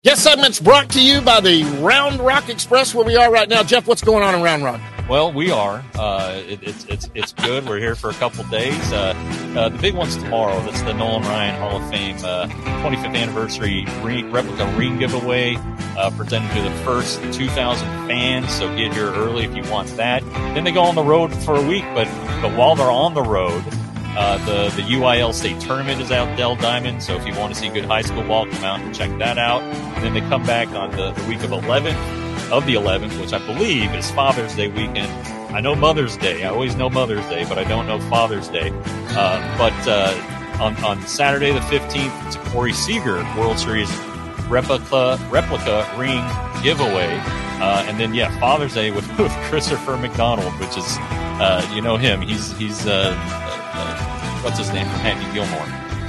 Guest segment's brought to you by the Round Rock Express, where we are right now. Jeff, what's going on in Round Rock? Well, we are. It's good. We're here for a couple days. The big one's tomorrow. That's the Nolan Ryan Hall of Fame 25th anniversary replica ring giveaway, presented to the first 2,000 fans. So get here early if you want that. Then they go on the road for a week, but while they're on the road, the UIL state tournament is out Dell Diamond. So if you want to see good high school ball, come out and check that out. And then they come back on the week of the 11th, which I believe is Father's Day weekend. I know Mother's Day. I always know Mother's Day, but I don't know Father's Day. But on Saturday the 15th, it's a Corey Seager World Series replica ring giveaway. And then, Father's Day with Christopher McDonald, which is, you know him. He's what's his name from Happy Gilmore?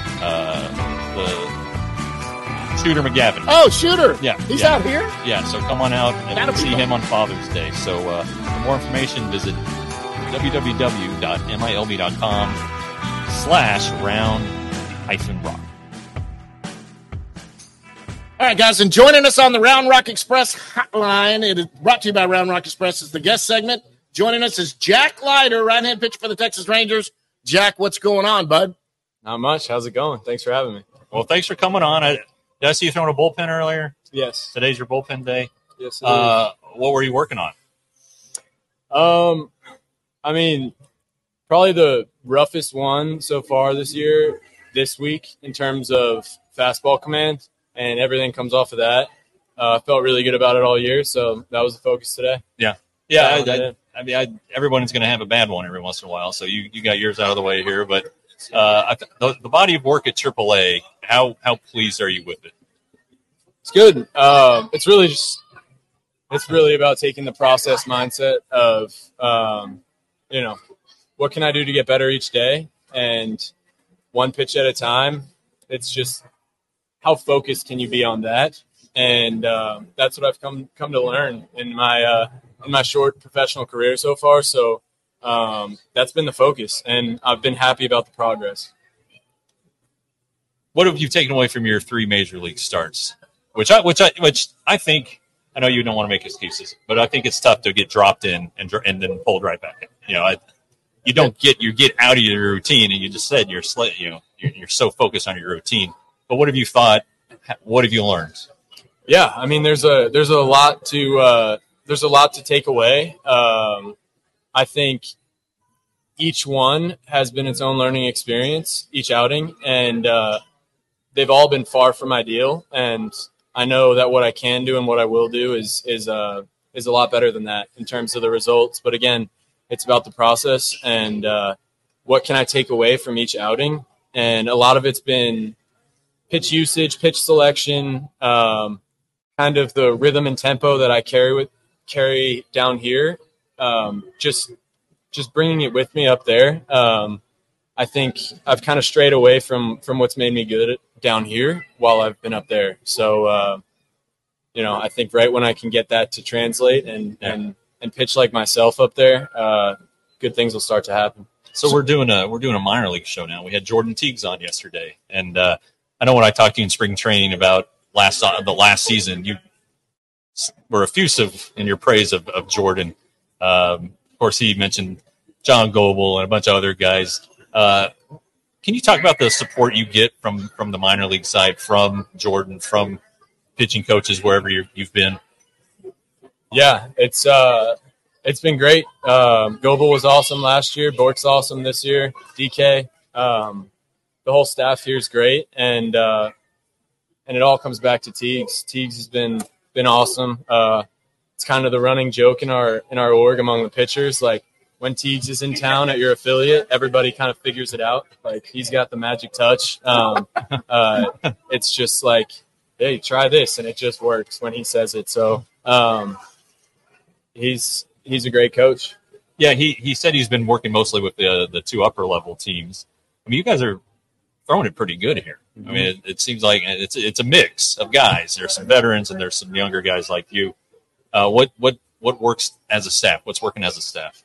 The Shooter McGavin. Oh, Shooter. Yeah. He's out here? Yeah, so come on out and see him on Father's Day. So for more information, visit www.milb.com/round-rock. All right, guys, and joining us on the Round Rock Express hotline, it is brought to you by Round Rock Express, is the guest segment. Joining us is Jack Leiter, right-hand pitcher for the Texas Rangers. Jack, what's going on, bud? Not much. How's it going? Thanks for having me. Well, thanks for coming on. Did I see you throwing a bullpen earlier? Yes. Today's your bullpen day? Yes, what were you working on? I mean, probably the roughest one so far this week in terms of fastball command, and everything comes off of that. I felt really good about it all year, so that was the focus today. Yeah. Everyone's going to have a bad one every once in a while, so you got yours out of the way here. But the body of work at AAA, how pleased are you with it? It's good. It's really about taking the process mindset of, what can I do to get better each day, and one pitch at a time. It's just how focused can you be on that, and that's what I've come to learn in my short professional career so far. So that's been the focus, and I've been happy about the progress. What have you taken away from your 3 major league starts? Which I think, I know you don't want to make excuses, but I think it's tough to get dropped in and then pulled right back in. You get out of your routine, and you just said you're so focused on your routine. But what have you thought? What have you learned? Yeah, I mean, there's a lot to take away. I think each one has been its own learning experience, each outing, and they've all been far from ideal. And I know that what I can do and what I will do is a lot better than that in terms of the results. But again, it's about the process and what can I take away from each outing. And a lot of it's been pitch usage, pitch selection, kind of the rhythm and tempo that I carry down here. Just bringing it with me up there. I think I've kind of strayed away from what's made me good down here while I've been up there. So, I think right when I can get that to translate and pitch like myself up there, good things will start to happen. So we're doing a minor league show now. We had Jordan Teagues on yesterday, and I know when I talked to you in spring training about the last season, you were effusive in your praise of Jordan. Of course, he mentioned John Goebel and a bunch of other guys. Can you talk about the support you get from the minor league side, from Jordan, from pitching coaches, wherever you've been? Yeah, it's been great. Goebel was awesome last year. Bork's awesome this year. DK, the whole staff here is great, and it all comes back to Teagues. Teagues has been awesome. It's kind of the running joke in our org among the pitchers. Like, when Teagues is in town at your affiliate, everybody kind of figures it out. Like, he's got the magic touch. It's just like, hey, try this, and it just works when he says it. So he's a great coach. Yeah, he said he's been working mostly with the 2 upper level teams. I mean, you guys are throwing it pretty good here. Mm-hmm. I mean, it seems like it's a mix of guys. There's some veterans and there's some younger guys like you. What works as a staff? What's working as a staff?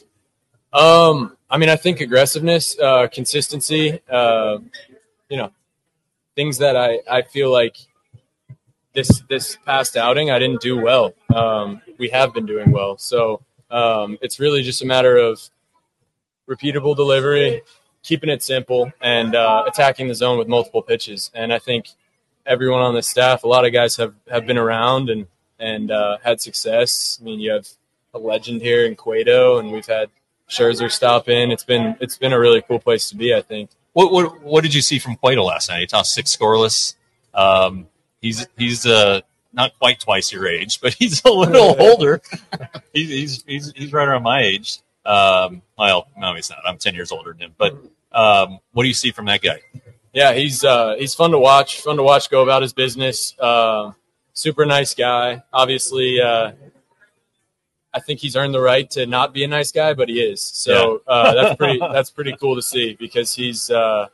I mean, I think aggressiveness, consistency, things that I feel like this past outing, I didn't do well. We have been doing well. So it's really just a matter of repeatable delivery, keeping it simple, and attacking the zone with multiple pitches. And I think everyone on the staff, a lot of guys have been around and had success. I mean, you have a legend here in Cueto, and we've had Scherzer stop in. It's been a really cool place to be, I think. What did you see from Cueto last night? He tossed 6 scoreless. He's not quite twice your age, but he's a little older. He's right around my age. Well, no, he's not. I'm 10 years older than him. But what do you see from that guy? Yeah, he's fun to watch. Fun to watch go about his business. Super nice guy. Obviously, I think he's earned the right to not be a nice guy, but he is. So that's pretty cool to see, because he's done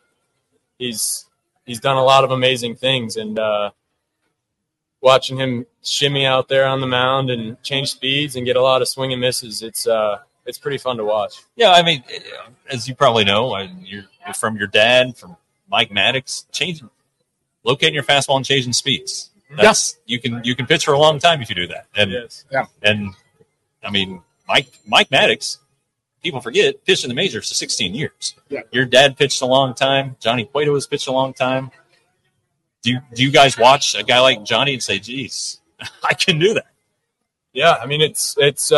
a lot of amazing things, and watching him shimmy out there on the mound and change speeds and get a lot of swing and misses, it's pretty fun to watch. Yeah, I mean, as you probably know, you're from your dad, from Mike Maddox, locating your fastball and changing speeds. You can pitch for a long time if you do that. And yes. And I mean, Mike Maddox, people forget, pitched in the majors for 16 years. Yeah. Your dad pitched a long time. Johnny Cueto has pitched a long time. Do you guys watch a guy like Johnny and say, geez, I can do that? Yeah, I mean, it's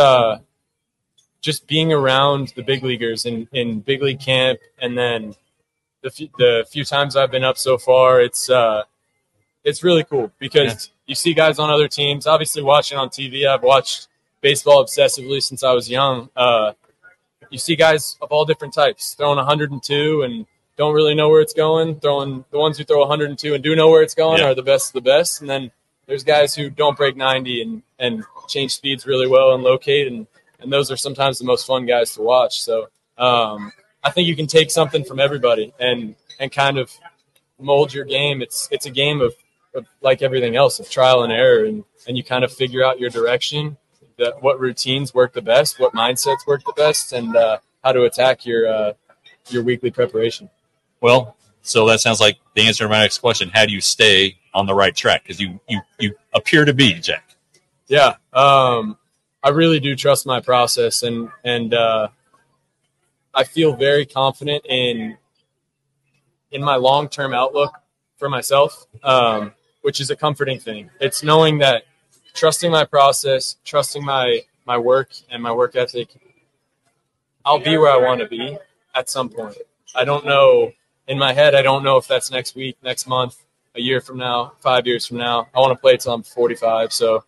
just being around the big leaguers in big league camp, and then the few times I've been up so far, it's really cool, because you see guys on other teams. Obviously, watching on TV, I've watched baseball obsessively since I was young. You see guys of all different types throwing 102 and don't really know where it's going. The ones who throw 102 and do know where it's going are the best of the best. And then there's guys who don't break 90 and change speeds really well and locate, and those are sometimes the most fun guys to watch. So I think you can take something from everybody and kind of mold your game. It's a game of like everything else, of trial and error, and you kind of figure out your direction, what routines work the best, what mindsets work the best, and how to attack your weekly preparation. Well, so that sounds like the answer to my next question. How do you stay on the right track? Because you appear to be, Jack. Yeah, I really do trust my process, and I feel very confident in my long-term outlook for myself, which is a comforting thing. It's knowing that, trusting my process, trusting my work and my work ethic, I'll be where I want to be at some point. I don't know. In my head, I don't know if that's next week, next month, a year from now, 5 years from now. I want to play till I'm 45. So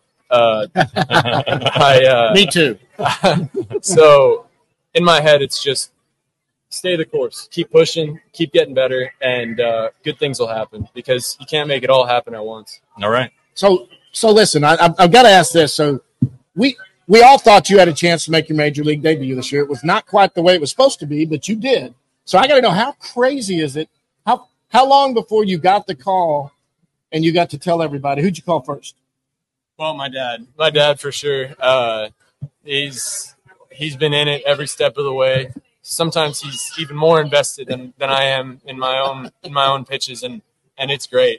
me too. So in my head, it's just stay the course, keep pushing, keep getting better, and good things will happen, because you can't make it all happen at once. All right. So listen, I've got to ask this. So we all thought you had a chance to make your major league debut this year. It was not quite the way it was supposed to be, but you did. So I got to know, how crazy is it? How long before you got the call and you got to tell everybody? Who'd you call first? Well, my dad for sure. He's been in it every step of the way. Sometimes he's even more invested than I am in my own pitches, and it's great.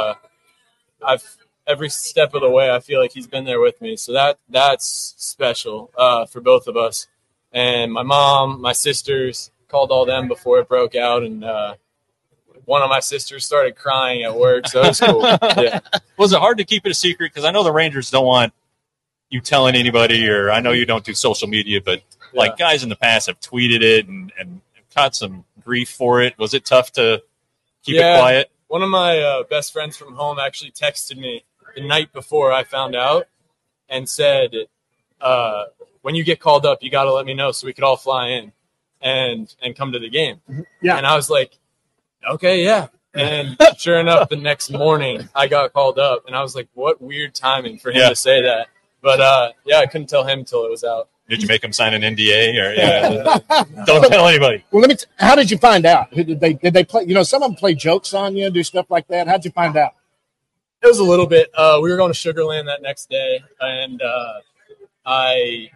Every step of the way, I feel like he's been there with me. So that's special for both of us. And my mom, my sisters, called all them before it broke out, and one of my sisters started crying at work, so it was cool. Yeah. Was it hard to keep it a secret? Because I know the Rangers don't want you telling anybody, or I know you don't do social media, but like guys in the past have tweeted it and caught some grief for it. Was it tough to keep it quiet? One of my best friends from home actually texted me the night before I found out and said, when you get called up, you got to let me know so we could all fly in and come to the game. Yeah. And I was like, okay, yeah. And sure enough, the next morning I got called up, and I was like, what weird timing for him to say that. But I couldn't tell him until it was out. Did you make him sign an NDA, or don't tell anybody? Well, how did you find out? Did they play? Some of them play jokes on you, do stuff like that. How'd you find out? It was a little bit. We were going to Sugar Land that next day, and I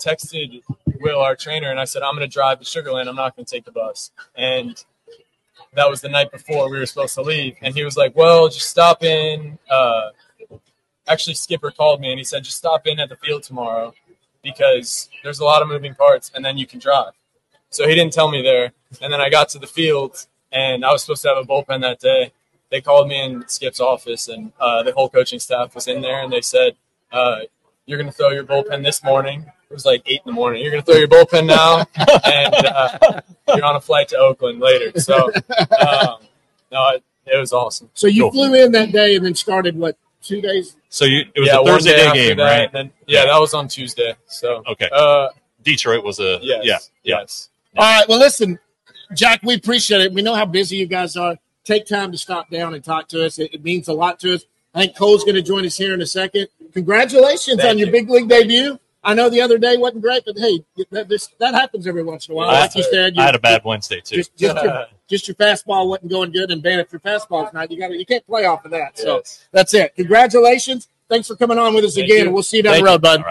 texted Will, our trainer, and I said, I'm going to drive to Sugar Land. I'm not going to take the bus. And that was the night before we were supposed to leave. And he was like, well, just stop in. Actually, Skipper called me and he said, just stop in at the field tomorrow because there's a lot of moving parts and then you can drive. So he didn't tell me there. And then I got to the field and I was supposed to have a bullpen that day. They called me in Skip's office and the whole coaching staff was in there and they said, you're going to throw your bullpen this morning. It was like 8 in the morning. You're going to throw your bullpen now and you're on a flight to Oakland later. So, no, it was awesome. So you flew in that day and then started, 2 days? So it was a Thursday day game, that, right? Then, that was on Tuesday. So okay. Detroit was a yes. All right. Well, listen, Jack, we appreciate it. We know how busy you guys are. Take time to stop down and talk to us. It means a lot to us. I think Cole's going to join us here in a second. Congratulations on your big league debut. I know the other day wasn't great, but hey, that happens every once in a while. Like you said, I had a bad Wednesday too. Just your fastball wasn't going good, and man, if your fastball's not, you can't play off of that. So that's it. Congratulations. Thanks for coming on with us again, and we'll see you down the road, bud.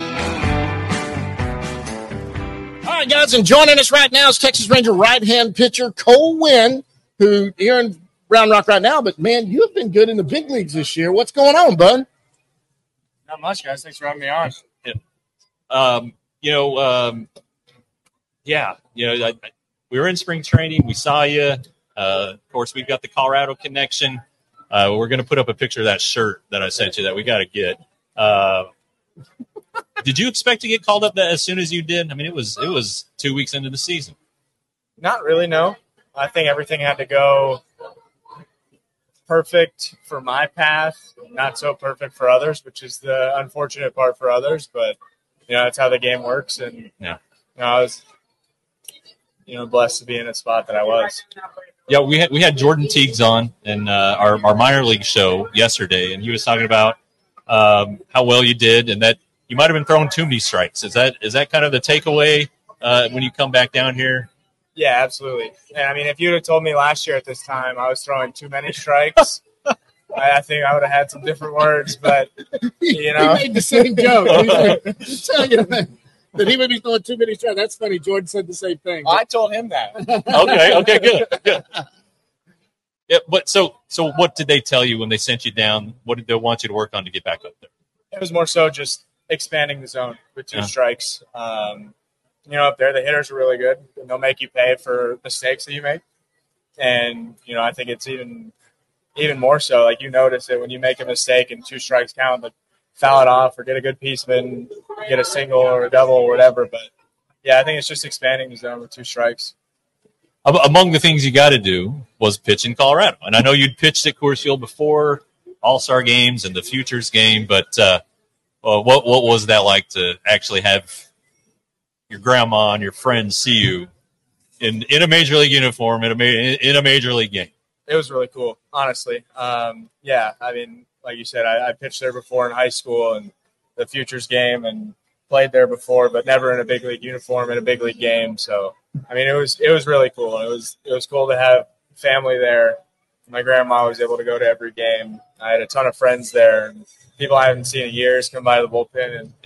All right, guys, and joining us right now is Texas Ranger right-hand pitcher Cole Winn, who here in Round Rock right now, but man, you have been good in the big leagues this year. What's going on, bud? Not much, guys. Thanks for having me on. We were in spring training. We saw you. Of course, we've got the Colorado connection. We're going to put up a picture of that shirt that I sent you that we got to get. Did you expect to get called up as soon as you did? I mean, it was 2 weeks into the season. Not really, no. I think everything had to go perfect for my path, not so perfect for others, which is the unfortunate part for others. But that's how the game works, and I was blessed to be in a spot that I was. Yeah, we had Jordan Teagues on in our minor league show yesterday, and he was talking about how well you did, and that you might have been throwing too many strikes. Is that kind of the takeaway when you come back down here? Yeah, absolutely. And I mean, if you'd have told me last year at this time I was throwing too many strikes, I think I would have had some different words. But he made the same joke. He's like, that he would be throwing too many strikes. That's funny. Jordan said the same thing. I told him that. Okay, good. Yeah, but so what did they tell you when they sent you down? What did they want you to work on to get back up there? It was more so just expanding the zone with 2 strikes. Up there, the hitters are really good, and they'll make you pay for mistakes that you make. And, I think it's even more so. Like, you notice it when you make a mistake and 2 strikes count, but foul it off or get a good piece of it and get a single or a double or whatever. But, I think it's just expanding the zone with 2 strikes. Among the things you got to do was pitch in Colorado. And I know you'd pitched at Coors Field before All-Star games and the Futures game, but what was that like to actually have your grandma and your friends see you in a major league uniform in a major league game? It was really cool, honestly. I mean, like you said, I pitched there before in high school and the Futures game and played there before, but never in a big league uniform in a big league game. So, I mean, it was really cool. It was cool to have family there. My grandma was able to go to every game. I had a ton of friends there, and people I haven't seen in years come by the bullpen and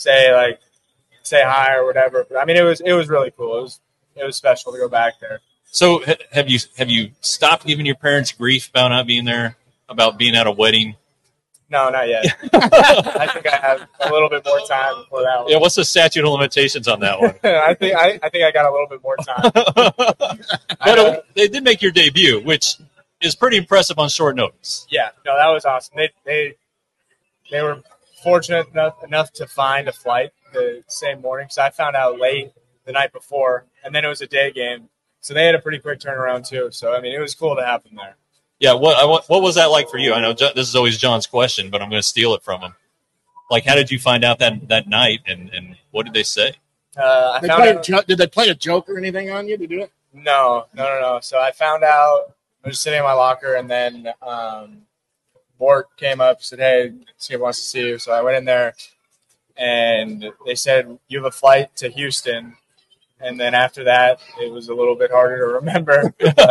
say hi or whatever. But I mean, it was really cool. It was special to go back there. So have you stopped giving your parents grief about not being there, about being at a wedding? No, not yet. I think I have a little bit more time before that one. Yeah, what's the statute of limitations on that one? I think I got a little bit more time. But they did make your debut, which is pretty impressive on short notice. Yeah, no, that was awesome. They were fortunate enough to find a flight the same morning, because I found out late the night before, and then it was a day game. So they had a pretty quick turnaround too. So, I mean, it was cool to have them there. Yeah, what was that like for you? I know this is always John's question, but I'm going to steal it from him. Like, how did you find out that night, and what did they say? Did they play a joke or anything on you to do it? No. So I found out, I was just sitting in my locker, and then Bort came up and said, hey, Skip wants to see you. So I went in there, and they said, you have a flight to Houston. And then after that, it was a little bit harder to remember.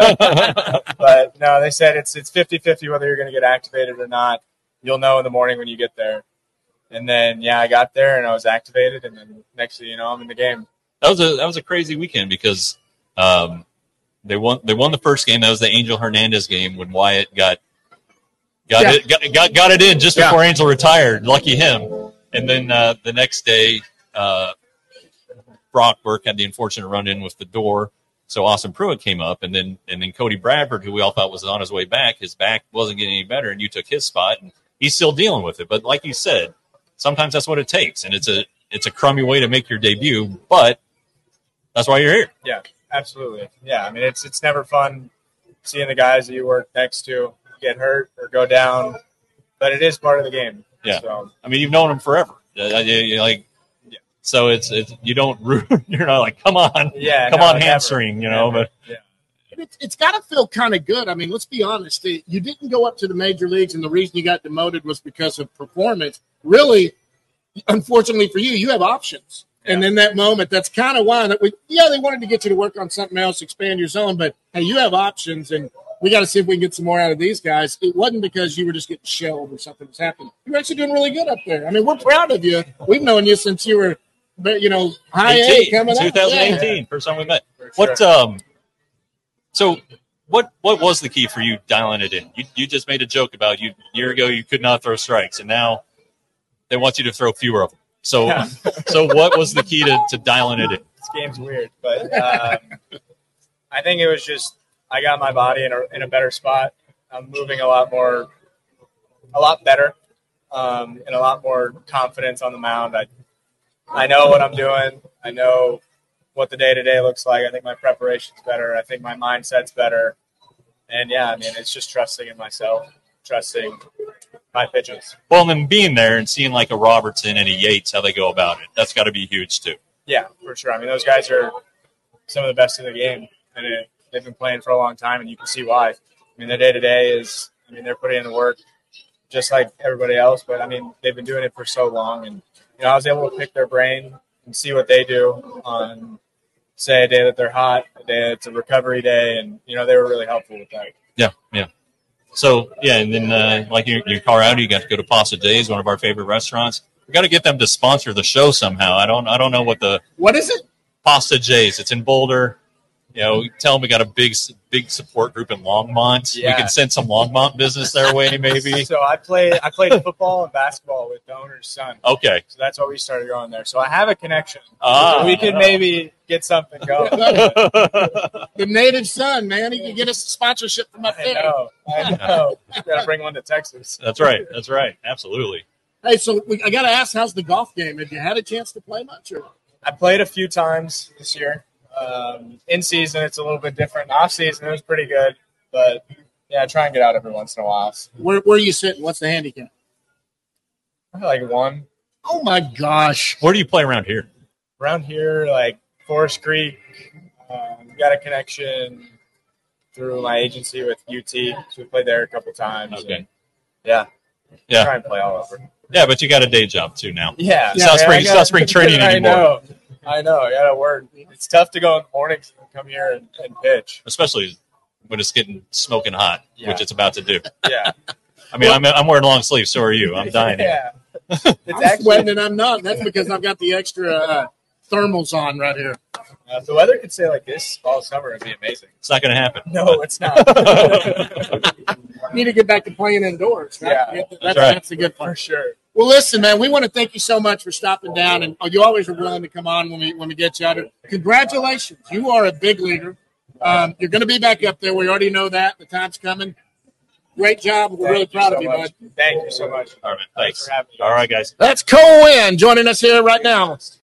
But no, they said it's 50-50 whether you're going to get activated or not. You'll know in the morning when you get there. And then, I got there and I was activated. And then next thing you know, I'm in the game. That was a crazy weekend because They won the first game. That was the Angel Hernandez game when Wyatt got it in just before Angel retired. Lucky him. And then the next day, Brock Burke had the unfortunate run-in with the door. So Austin Pruitt came up, and then Cody Bradford, who we all thought was on his way back, his back wasn't getting any better, and you took his spot, and he's still dealing with it. But like you said, sometimes that's what it takes, and it's a crummy way to make your debut, but that's why you're here. Yeah, absolutely. Yeah, I mean, it's never fun seeing the guys that you work next to get hurt or go down, but it is part of the game. Yeah, so. I mean, you've known them forever. So it's you don't you're not like come on hamstring, but it's got to feel kind of good. I mean, let's be honest. You didn't go up to the major leagues, and the reason you got demoted was because of performance. Really, unfortunately for you, you have options. Yeah. And in that moment, that's kind of why they wanted to get you to work on something else, expand your zone. But hey, you have options, and we got to see if we can get some more out of these guys. It wasn't because you were just getting shelled or something that's happened. You're actually doing really good up there. I mean, we're proud of you. We've known you since you were. But high A coming 2018, first time we met. Sure. So what was the key for you dialing it in? You just made a joke about a year ago you could not throw strikes, and now they want you to throw fewer of them. So so what was the key to dialing it in? This game's weird, but I think it was just I got my body in a better spot. I'm moving a lot better, and a lot more confidence on the mound. I know what I'm doing. I know what the day-to-day looks like. I think my preparation's better. I think my mindset's better. And, yeah, I mean, it's just trusting in myself, trusting my pitches. Well, and then being there and seeing like a Robertson and a Yates, how they go about it, that's got to be huge too. Yeah, for sure. I mean, those guys are some of the best in the game. And they've been playing for a long time, and you can see why. I mean, their day-to-day they're putting in the work just like everybody else. But, I mean, they've been doing it for so long, and I was able to pick their brain and see what they do on, say, a day that they're hot, a day it's a recovery day, and, they were really helpful with that. Yeah. So, and then like you're in Colorado, you got to go to Pasta Days, one of our favorite restaurants. We got to get them to sponsor the show somehow. I don't know what is it? Pasta J's. It's in Boulder. Tell them we got a big support group in Longmont. Yeah. We can send some Longmont business their way, maybe. So I played football and basketball with the owner's son. Okay. So that's why we started going there. So I have a connection. So we could maybe get something going. The native son, man. He can get us a sponsorship from up there. I know. Got to bring one to Texas. That's right. Absolutely. Hey, so I got to ask, how's the golf game? Have you had a chance to play much? Or? I played a few times this year. In season, it's a little bit different. Off season, it was pretty good, but yeah, I try and get out every once in a while. Where are you sitting? What's the handicap? Like 1. Oh my gosh! Where do you play around here? Around here, like Forest Creek. Got a connection through my agency with UT, so we played there a couple times. Okay. Yeah. Try and play all over. Yeah, but you got a day job too now. Yeah. It's not spring training anymore. I know. I got to work. It's tough to go in the mornings and come here and pitch. Especially when it's getting smoking hot, which it's about to do. Yeah. I mean, I'm wearing long sleeves. So are you. I'm dying. Yeah. I'm sweating and I'm not. That's because I've got the extra thermals on right here. If the weather could stay like this all summer, it'd be amazing. It's not going to happen. No, it's not. Need to get back to playing indoors. Right? Yeah, that's a good part. For sure. Well, listen, man, we want to thank you so much for stopping down, and you always are willing to come on when we get you out here. Congratulations. You are a big leaguer. You're going to be back up there. We already know that. The time's coming. Great job. We're really proud of you, bud. Thank you so much. All right, thanks. All right, guys. That's Cole Winn joining us here right now.